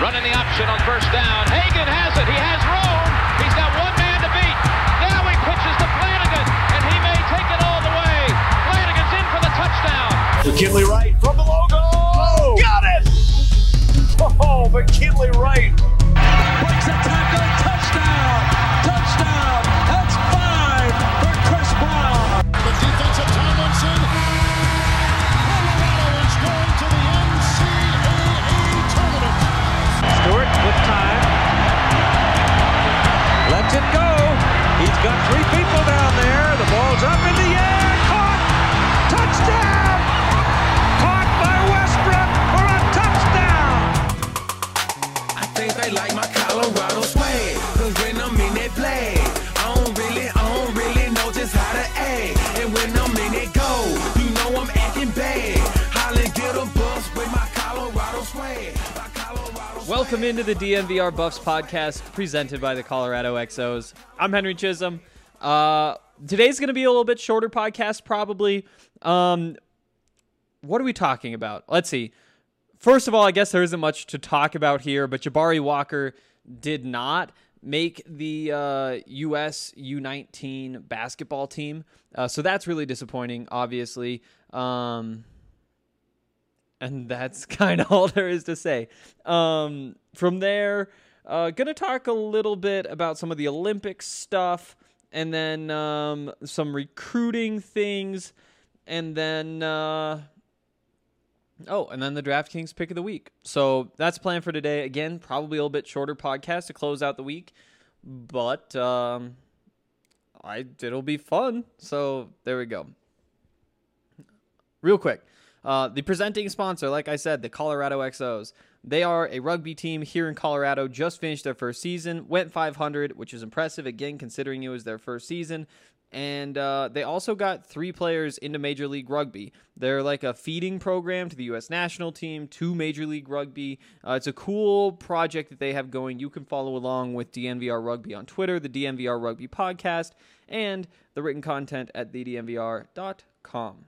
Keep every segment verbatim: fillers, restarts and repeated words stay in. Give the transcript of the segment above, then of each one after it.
Running the option on first down. Hagan has it. He has room. He's got one man to beat. Now he pitches to Flanagan, and he may take it all the way. Flanagan's in for the touchdown. McKinley Wright from the logo. Oh, got it! Oh, McKinley Wright. Breaks a tackle. Touchdown. Touchdown. That's five for Chris Brown. The defense of Tomlinson. Colorado is going to the N C double A tournament. Stewart with time. Lets it go. He's got three people down there. The ball's up in the air. Caught. Touchdown. Caught by Westbrook for a touchdown. I think they like my Colorado swag. Cause when I'm in that play, I don't really, I don't really know just how to act. And when I'm in that go, you know I'm acting bad. Holly get a bus with my Colorado swag. My Colorado swag. Welcome into the D N V R Buffs podcast presented by the Colorado X Os. I'm Henry Chisholm. Uh, today's going to be a little bit shorter podcast, probably. Um, what are we talking about? Let's see. First of all, I guess there isn't much to talk about here, but Jabari Walker did not make the uh, U S U nineteen basketball team. Uh, so that's really disappointing, obviously. Um, and that's kind of all there is to say. Um, from there, uh, going to talk a little bit about some of the Olympic stuff, and then um, some recruiting things, and then... Uh, Oh, and then the DraftKings pick of the week. So that's planned for today. Again, probably a little bit shorter podcast to close out the week, but um, I it'll be fun. So there we go. Real quick, uh, the presenting sponsor, like I said, the Colorado X Os. They are a rugby team here in Colorado. Just finished their first season, went five hundred, which is impressive again considering it was their first season. And uh, they also got three players into Major League Rugby. They're like a feeding program to the U S national team, to Major League Rugby. Uh, it's a cool project that they have going. You can follow along with D N V R Rugby on Twitter, the D N V R Rugby podcast, and the written content at the d n v r dot com.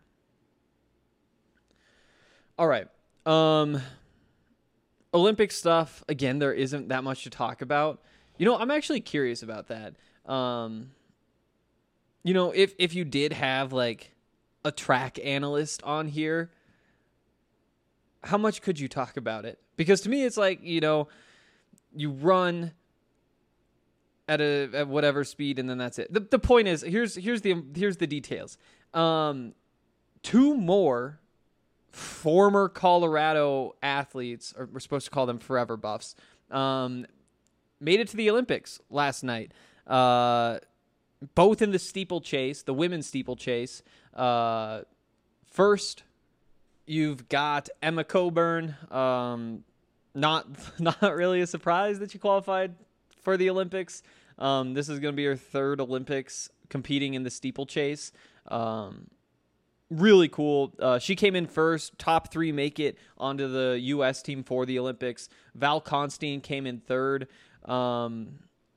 All right. Um, Olympic stuff. Again, there isn't that much to talk about. You know, I'm actually curious about that. Um... You know, if, if you did have, like, a track analyst on here, how much could you talk about it? Because to me, it's like, you know, you run at a at whatever speed, and then that's it. The the point is, here's here's the here's the details. Um, two more former Colorado athletes, or we're supposed to call them forever buffs, um, made it to the Olympics last night. Uh Both in the steeplechase, the women's steeplechase. Uh, first, you've got Emma Coburn. Um, not not really a surprise that she qualified for the Olympics. Um, this is going to be her third Olympics competing in the steeplechase. Um, really cool. Uh, she came in first. Top three make it onto the U S team for the Olympics. Val Constein came in third. Um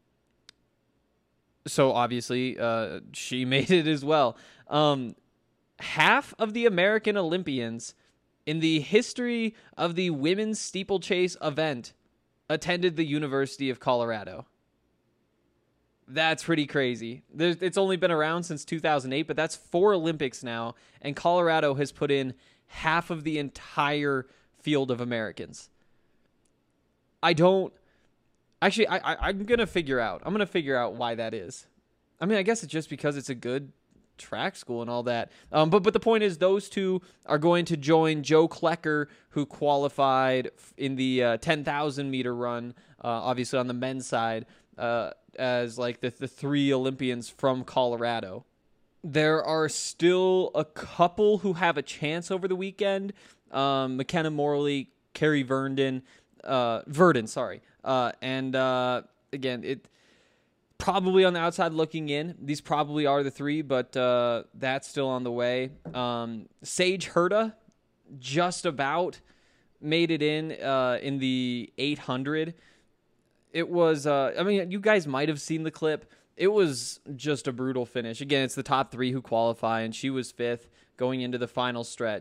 So obviously, uh, she made it as well. Um, half of the American Olympians in the history of the women's steeplechase event attended the University of Colorado. That's pretty crazy. There's, it's only been around since two thousand eight, but that's four Olympics now, and Colorado has put in half of the entire field of Americans. I don't... Actually, I, I, I'm going to figure out. I'm going to figure out why that is. I mean, I guess it's just because it's a good track school and all that. Um, but but the point is those two are going to join Joe Klecker, who qualified in the uh, ten thousand meter run, uh, obviously on the men's side, uh, as like the, the three Olympians from Colorado. There are still a couple who have a chance over the weekend. Um, McKenna Morley, Carrie Verdon, uh, Verdon, sorry. Uh, and, uh, again, it probably on the outside looking in. These probably are the three, but uh, that's still on the way. Um, Sage Herta just about made it in uh, in the eight hundred. It was, uh, I mean, you guys might have seen the clip. It was just a brutal finish. Again, it's the top three who qualify, and she was fifth going into the final stretch.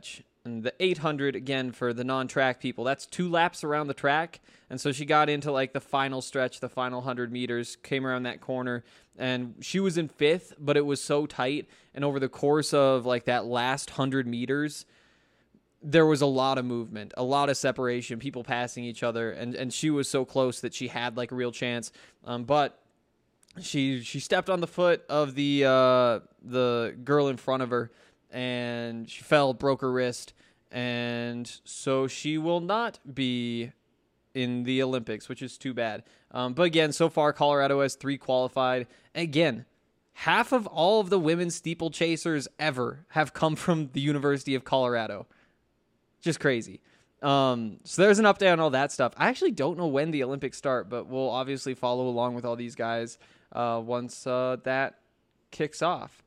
And the eight hundred, again, for the non-track people, that's two laps around the track. And so she got into like the final stretch, the final one hundred meters, came around that corner, and she was in fifth, but it was so tight. And over the course of like that last one hundred meters, there was a lot of movement, a lot of separation, people passing each other, and, and she was so close that she had like a real chance. Um, but she she stepped on the foot of the uh, the girl in front of her, and she fell, broke her wrist, and so she will not be in the Olympics, which is too bad. Um, but again, so far Colorado has three qualified. And again, half of all of the women's steeplechasers ever have come from the University of Colorado. Just crazy. Um, so there's an update on all that stuff. I actually don't know when the Olympics start, but we'll obviously follow along with all these guys uh, once uh, that kicks off.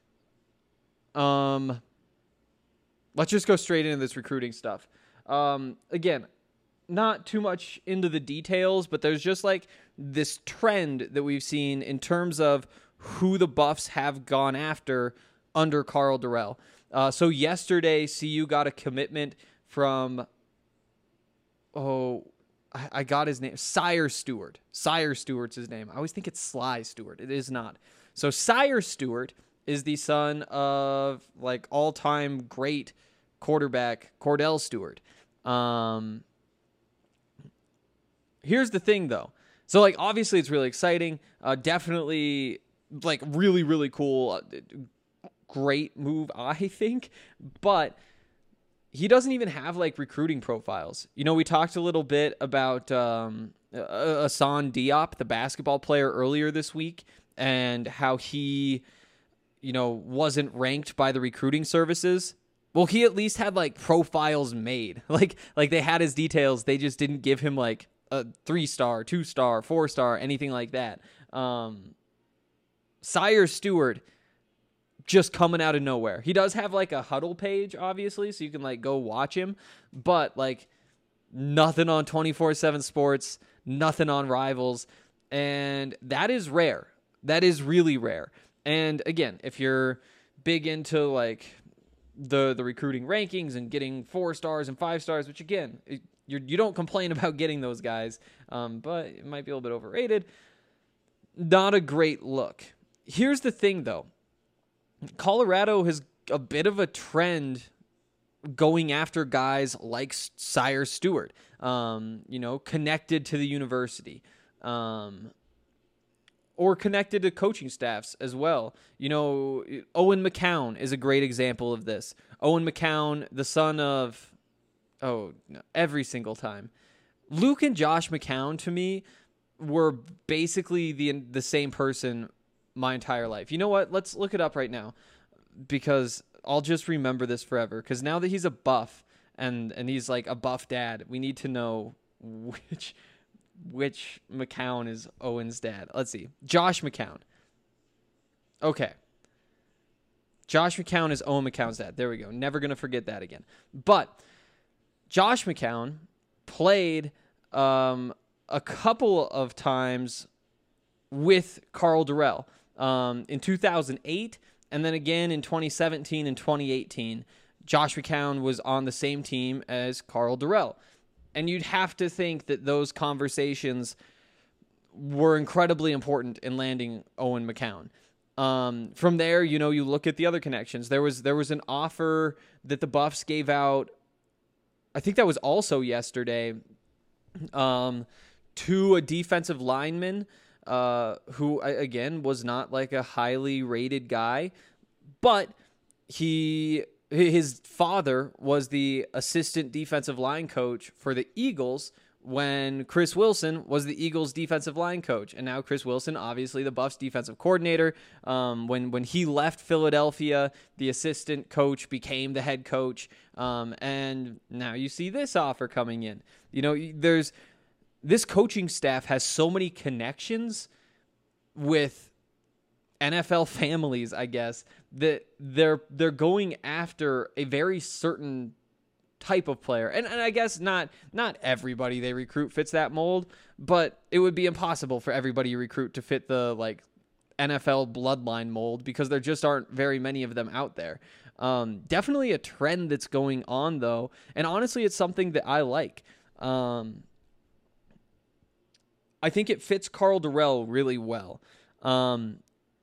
Um, let's just go straight into this recruiting stuff. Um, again, not too much into the details, but there's just like this trend that we've seen in terms of who the Buffs have gone after under Karl Dorrell. Uh, so yesterday, C U got a commitment from, oh, I, I got his name, Sire Stewart. Sire Stewart's his name. I always think it's Sly Stewart. It is not. So Sire Stewart is the son of like all-time great quarterback Cordell Stewart. Um, here's the thing, though. So like obviously it's really exciting. Uh, definitely like really really cool. Uh, great move, I think, but he doesn't even have like recruiting profiles. You know, we talked a little bit about um, Hassan Diop, the basketball player, earlier this week, and how he, you know, wasn't ranked by the recruiting services. Well, he at least had like profiles made. Like, like they had his details. They just didn't give him like a three star, two star, four star, anything like that. Um, Sire Stewart, just coming out of nowhere. He does have like a huddle page, obviously, so you can like go watch him, but like nothing on twenty-four seven Sports, nothing on Rivals, and that is rare. That is really rare. And again, if you're big into like the the recruiting rankings and getting four stars and five stars, which again, you're, you don't complain about getting those guys, um, but it might be a little bit overrated. Not a great look. Here's the thing, though. Colorado has a bit of a trend going after guys like Sire Stewart, um, you know, connected to the university, um, or connected to coaching staffs as well. You know, Owen McCown is a great example of this. Owen McCown, the son of, oh, no, every single time. Luke and Josh McCown, to me, were basically the the same person my entire life. You know what? Let's look it up right now, because I'll just remember this forever. Because now that he's a Buff and and he's like a Buff dad, we need to know which which McCown is Owen's dad. Let's see. Josh McCown. Okay. Josh McCown is Owen McCown's dad. There we go. Never gonna forget that again. But Josh McCown played um, a couple of times with Karl Dorrell. Um, in two thousand eight, and then again in twenty seventeen and twenty eighteen, Josh McCown was on the same team as Karl Dorrell. And you'd have to think that those conversations were incredibly important in landing Owen McCown. Um, from there, you know, you look at the other connections. There was there was an offer that the Buffs gave out, I think that was also yesterday, um, to a defensive lineman, Uh, who, again, was not like a highly rated guy, but he his father was the assistant defensive line coach for the Eagles when Chris Wilson was the Eagles defensive line coach. And now Chris Wilson, obviously the Buffs defensive coordinator. Um, when, when he left Philadelphia, the assistant coach became the head coach. Um, and now you see this offer coming in. You know, there's... This coaching staff has so many connections with N F L families, I guess, that they're they're going after a very certain type of player. And, and I guess not not everybody they recruit fits that mold, but it would be impossible for everybody you recruit to fit the like N F L bloodline mold, because there just aren't very many of them out there. Um, definitely a trend that's going on, though. And honestly, it's something that I like. Um, I think it fits Karl Dorrell really well. Um,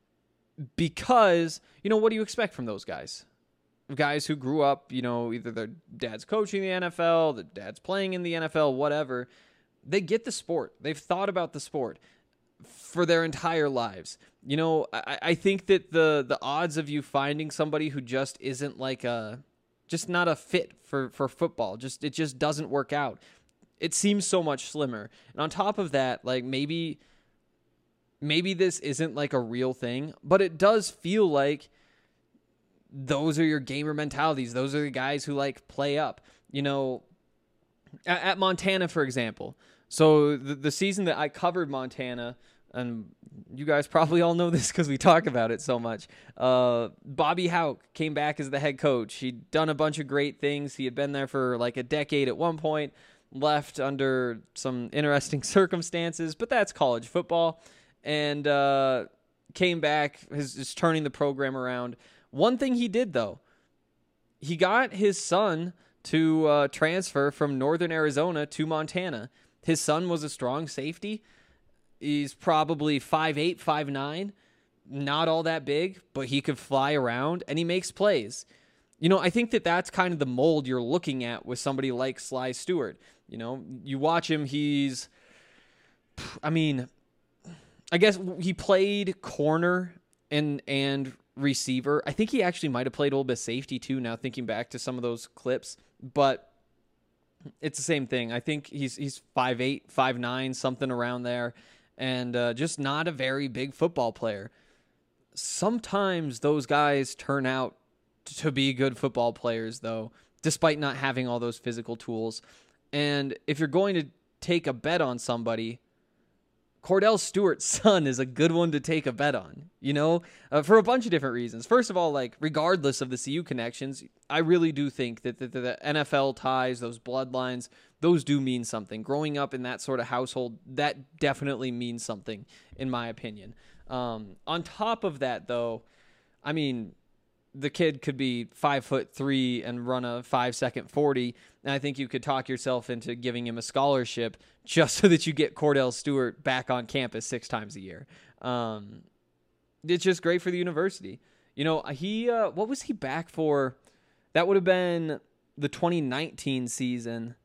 because, you know, what do you expect from those guys? Guys who grew up, you know, either their dad's coaching the N F L, their dad's playing in the N F L, whatever. They get the sport. They've thought about the sport for their entire lives. You know, I, I think that the the odds of you finding somebody who just isn't like a, just not a fit for, for football, just it just doesn't work out. It seems so much slimmer. And on top of that, like maybe, maybe this isn't like a real thing, but it does feel like those are your gamer mentalities. Those are the guys who like play up, you know, at, at Montana, for example. So the, the season that I covered Montana, and you guys probably all know this because we talk about it so much. Uh, Bobby Hauck came back as the head coach. He'd done a bunch of great things. He had been there for like a decade at one point, left under some interesting circumstances, but that's college football, and uh, came back, is, is turning the program around. One thing he did, though, he got his son to uh, transfer from Northern Arizona to Montana. His son was a strong safety. He's probably five eight, five nine, not all that big, but he could fly around, and he makes plays. You know, I think that that's kind of the mold you're looking at with somebody like Sly Stewart. You know, you watch him, he's, I mean, I guess he played corner and and receiver. I think he actually might have played a little bit of safety too, now thinking back to some of those clips, but it's the same thing. I think he's he's five eight, five nine, something around there, and uh, just not a very big football player. Sometimes those guys turn out to be good football players, though, despite not having all those physical tools. And if you're going to take a bet on somebody, Kordell Stewart's son is a good one to take a bet on, you know, uh, for a bunch of different reasons. First of all, like, regardless of the C U connections, I really do think that the, the N F L ties, those bloodlines, those do mean something. Growing up in that sort of household, that definitely means something, in my opinion. Um, on top of that, though, I mean, the kid could be five foot three and run a five second forty. And I think you could talk yourself into giving him a scholarship just so that you get Kordell Stewart back on campus six times a year. Um, it's just great for the university. You know, he, uh, what was he back for? That would have been the twenty nineteen season.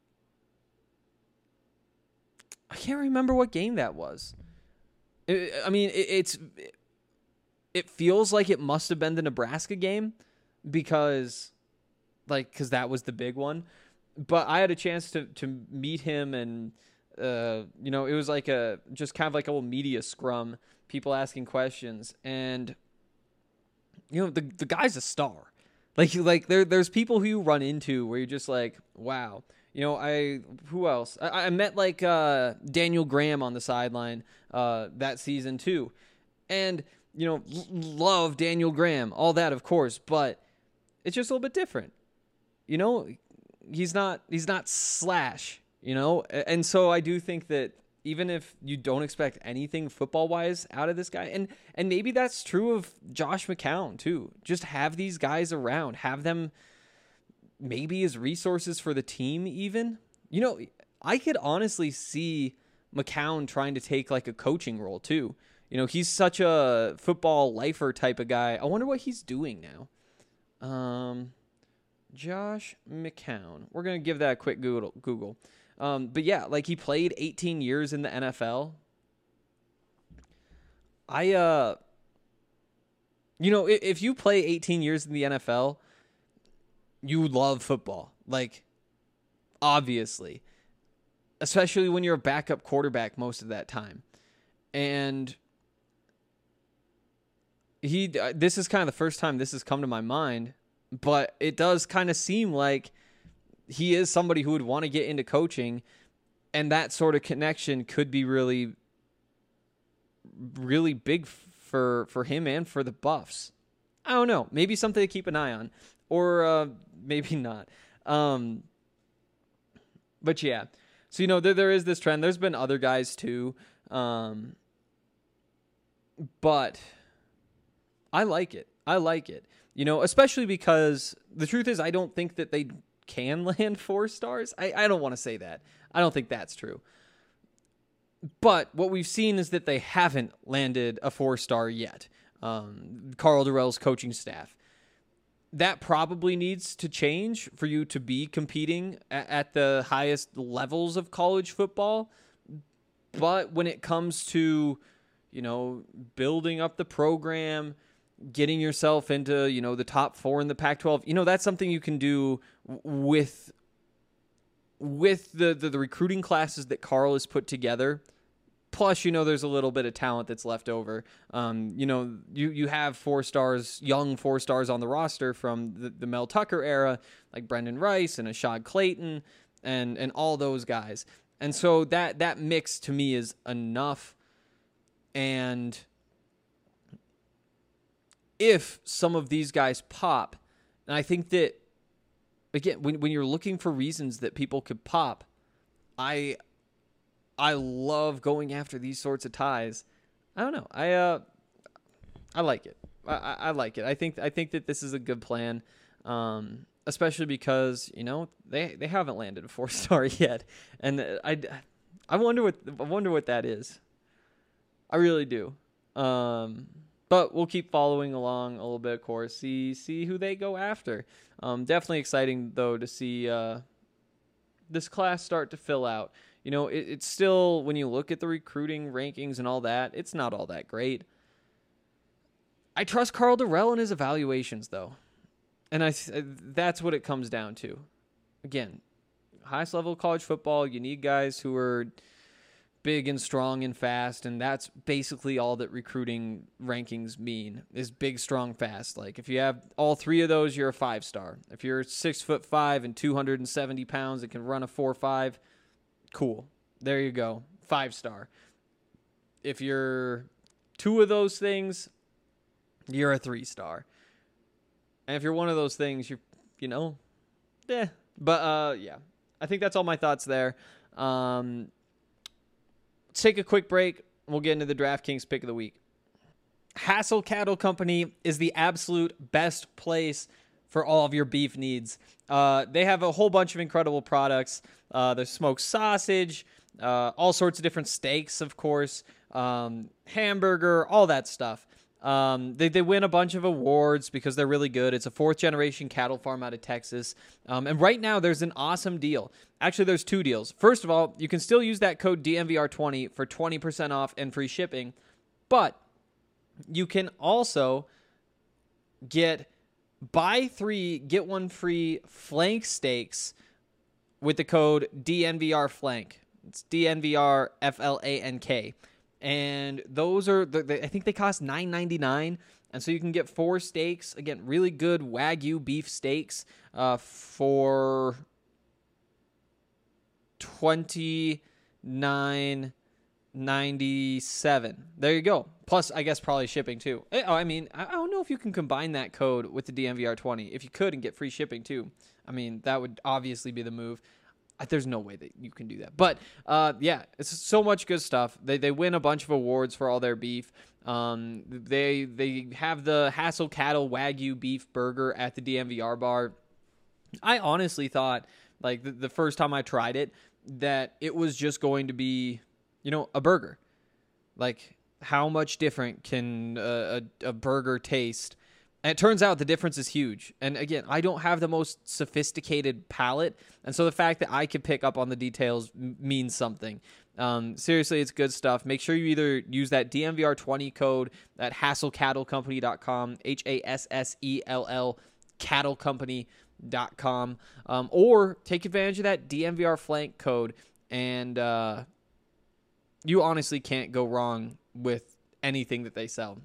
I can't remember what game that was. It, I mean, it, it's, it feels like it must have been the Nebraska game because, like, because that was the big one. But I had a chance to, to meet him, and, uh, you know, it was like a, just kind of like a little media scrum, people asking questions. And, you know, the the guy's a star. Like, like there there's people who you run into where you're just like, wow. You know, I, who else? I, I met, like, uh, Daniel Graham on the sideline uh, that season, too. And, you know, l- love Daniel Graham, all that, of course, but it's just a little bit different. You know, he's not, he's not Slash, you know? And so I do think that even if you don't expect anything football-wise out of this guy, and, and maybe that's true of Josh McCown, too. Just have these guys around. Have them maybe as resources for the team even. You know, I could honestly see McCown trying to take, like, a coaching role, too. You know, he's such a football lifer type of guy. I wonder what he's doing now. Um, Josh McCown. We're going to give that a quick Google. Google. Um, but yeah, like, he played eighteen years in the N F L. I, uh, you know, if, if you play eighteen years in the N F L, you love football. Like, obviously. Especially when you're a backup quarterback most of that time. And he, uh, this is kind of the first time this has come to my mind, but it does kind of seem like he is somebody who would want to get into coaching, and that sort of connection could be really, really big for, for him and for the Buffs. I don't know. Maybe something to keep an eye on, or uh, maybe not. Um, but yeah, so, you know, there, there is this trend. There's been other guys too. Um, but I like it. I like it. You know, especially because the truth is I don't think that they can land four stars. I, I don't want to say that. I don't think that's true. But what we've seen is that they haven't landed a four-star yet. Um, Karl Dorrell's coaching staff. That probably needs to change for you to be competing at, at the highest levels of college football. But when it comes to, you know, building up the program, getting yourself into, you know, the top four in the Pac twelve, you know, that's something you can do with with the, the, the recruiting classes that Karl has put together. Plus, you know, there's a little bit of talent that's left over. Um, you know, you, you have four stars, young four stars on the roster from the, the Mel Tucker era, like Brendan Rice and Ashad Clayton and, and all those guys. And so that, that mix to me is enough. And if some of these guys pop, and I think that, again, when, when you're looking for reasons that people could pop, I... I love going after these sorts of ties. I don't know. I uh, I like it. I, I like it. I think I think that this is a good plan, um, especially because you know they, they haven't landed a four star yet, and I, I wonder what I wonder what that is. I really do. Um, but we'll keep following along a little bit, of course. See see who they go after. Um, definitely exciting though to see uh, this class start to fill out. You know, it, it's still, when you look at the recruiting rankings and all that, it's not all that great. I trust Karl Dorrell in his evaluations, though. And I that's what it comes down to. Again, highest level of college football, you need guys who are big and strong and fast, and that's basically all that recruiting rankings mean, is big, strong, fast. Like, if you have all three of those, you're a five-star. If you're six foot five and two hundred seventy pounds and can run a four five, cool. There you go. Five star. If you're two of those things, you're a three star. And if you're one of those things, you're, you know, eh. But, uh, yeah. I think that's all my thoughts there. Um, let's take a quick break. We'll get into the DraftKings pick of the week. Hassel Cattle Company is the absolute best place for all of your beef needs. Uh, they have a whole bunch of incredible products. Uh, there's smoked sausage, uh, all sorts of different steaks, of course, um, hamburger, all that stuff. Um, they, they win a bunch of awards because they're really good. It's a fourth-generation cattle farm out of Texas. Um, and right now, there's an awesome deal. Actually, there's two deals. First of all, you can still use that code D N V R twenty for twenty percent off and free shipping. But you can also get buy three, get one free flank steaks with the code D N V R flank. It's D N V R F L A N K. And those are, the, the, I think they cost nine ninety-nine. And so you can get four steaks. Again, really good Wagyu beef steaks uh, for twenty-nine ninety-seven. There you go. Plus, I guess probably shipping too. Oh, I mean, I don't know if you can combine that code with the D N V R twenty. If you could and get free shipping too, I mean, that would obviously be the move. There's no way that you can do that. But, uh, yeah, it's so much good stuff. They they win a bunch of awards for all their beef. Um, they they have the Hassel Cattle Wagyu beef burger at the D N V R bar. I honestly thought, like, the, the first time I tried it, that it was just going to be, you know, a burger. Like, how much different can a, a, a burger taste? And it turns out the difference is huge. And again, I don't have the most sophisticated palate. And so the fact that I can pick up on the details m- means something. Um, seriously, it's good stuff. Make sure you either use that D N V R twenty code at hassel cattle company dot com, H A S S E L L, cattle company dot com, um, or take advantage of that D N V R flank code. And uh, you honestly can't go wrong with anything that they sell.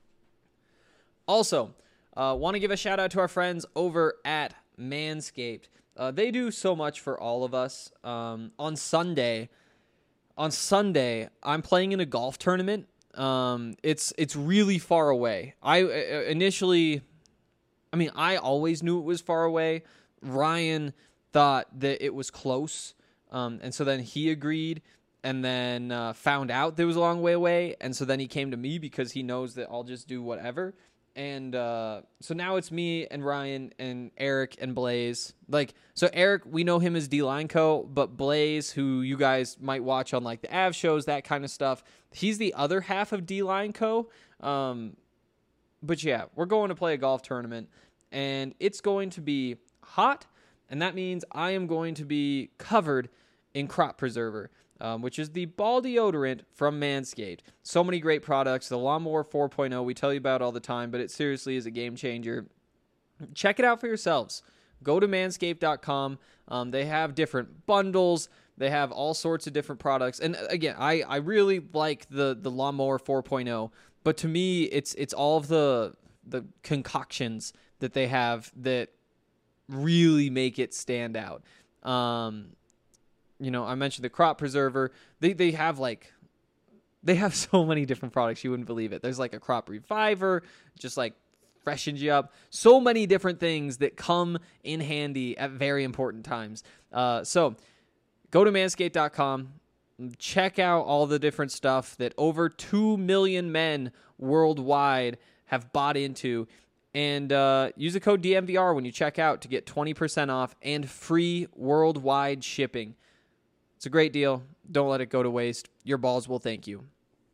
Also, uh, want to give a shout out to our friends over at Manscaped. Uh, they do so much for all of us. Um, on Sunday, on Sunday, I'm playing in a golf tournament. Um, it's it's really far away. I uh, initially, I mean, I always knew it was far away. Ryan thought that it was close, um, and so then he agreed. And then uh, found out that it was a long way away, and so then he came to me because he knows that I'll just do whatever. And uh, so now it's me and Ryan and Eric and Blaze. Like, so Eric, we know him as D-Line Co, but Blaze, who you guys might watch on like the A V shows, that kind of stuff, he's the other half of D-Line Co. Um, but yeah, we're going to play a golf tournament, and it's going to be hot, and that means I am going to be covered in Crop Preserver. Um, which is the ball deodorant from Manscaped. So many great products. The Lawnmower four point oh we tell you about all the time, but it seriously is a game changer. Check it out for yourselves. Go to manscaped dot com. Um, they have different bundles. They have all sorts of different products. And again, I, I really like the, the Lawnmower four point oh, but to me, it's it's all of the the concoctions that they have that really make it stand out. Um, You know, I mentioned the Crop Preserver. They they have like, they have so many different products. You wouldn't believe it. There's like a Crop Reviver, just like freshens you up. So many different things that come in handy at very important times. Uh, so go to manscaped dot com. Check out all the different stuff that over two million men worldwide have bought into. And uh, use the code D M V R when you check out to get twenty percent off and free worldwide shipping. It's a great deal. Don't let it go to waste. Your balls will thank you.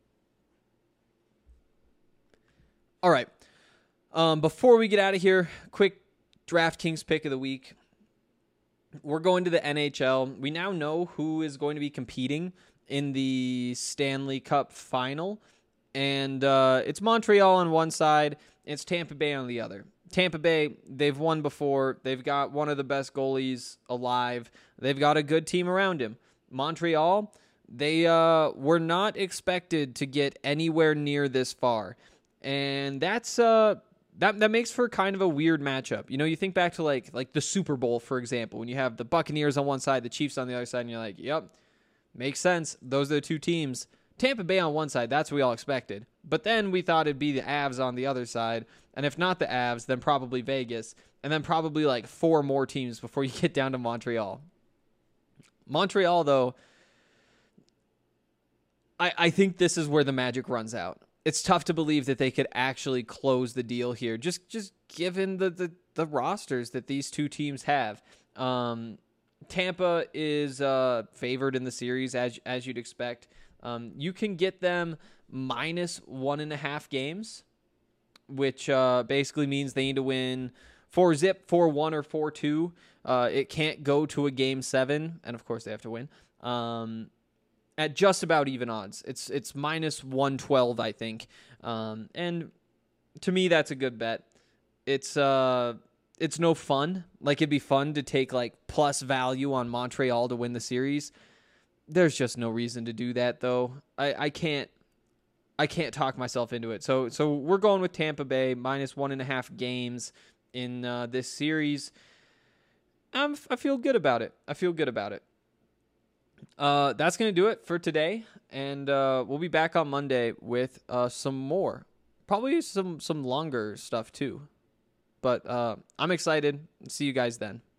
All right. Um, before we get out of here, quick DraftKings pick of the week. We're going to the N H L. We now know who is going to be competing in the Stanley Cup final. And uh, it's Montreal on one side. It's Tampa Bay on the other. Tampa Bay, they've won before. They've got one of the best goalies alive. They've got a good team around him. Montreal, they uh, were not expected to get anywhere near this far. And that's uh, that that makes for kind of a weird matchup. You know, you think back to like like the Super Bowl, for example, when you have the Buccaneers on one side, the Chiefs on the other side, and you're like, yep, makes sense. Those are the two teams. Tampa Bay on one side, that's what we all expected. But then we thought it'd be the Avs on the other side. And if not the Avs, then probably Vegas. And then probably like four more teams before you get down to Montreal. Montreal, though, I, I think this is where the magic runs out. It's tough to believe that they could actually close the deal here, just just given the, the, the rosters that these two teams have. Um, Tampa is uh, favored in the series, as as you'd expect. Um, you can get them minus one and a half games, which uh, basically means they need to win four zip, four one, or four two. Uh, it can't go to a game seven, and of course they have to win. Um, at just about even odds, it's it's minus one twelve, I think. Um, and to me, that's a good bet. It's uh, it's no fun. Like it'd be fun to take like plus value on Montreal to win the series. There's just no reason to do that, though. I, I can't I can't talk myself into it. So so we're going with Tampa Bay minus one and a half games in uh, this series. I'm, I feel good about it. I feel good about it. Uh, that's going to do it for today, and uh, we'll be back on Monday with uh, some more. Probably some, some longer stuff, too. But uh, I'm excited. See you guys then.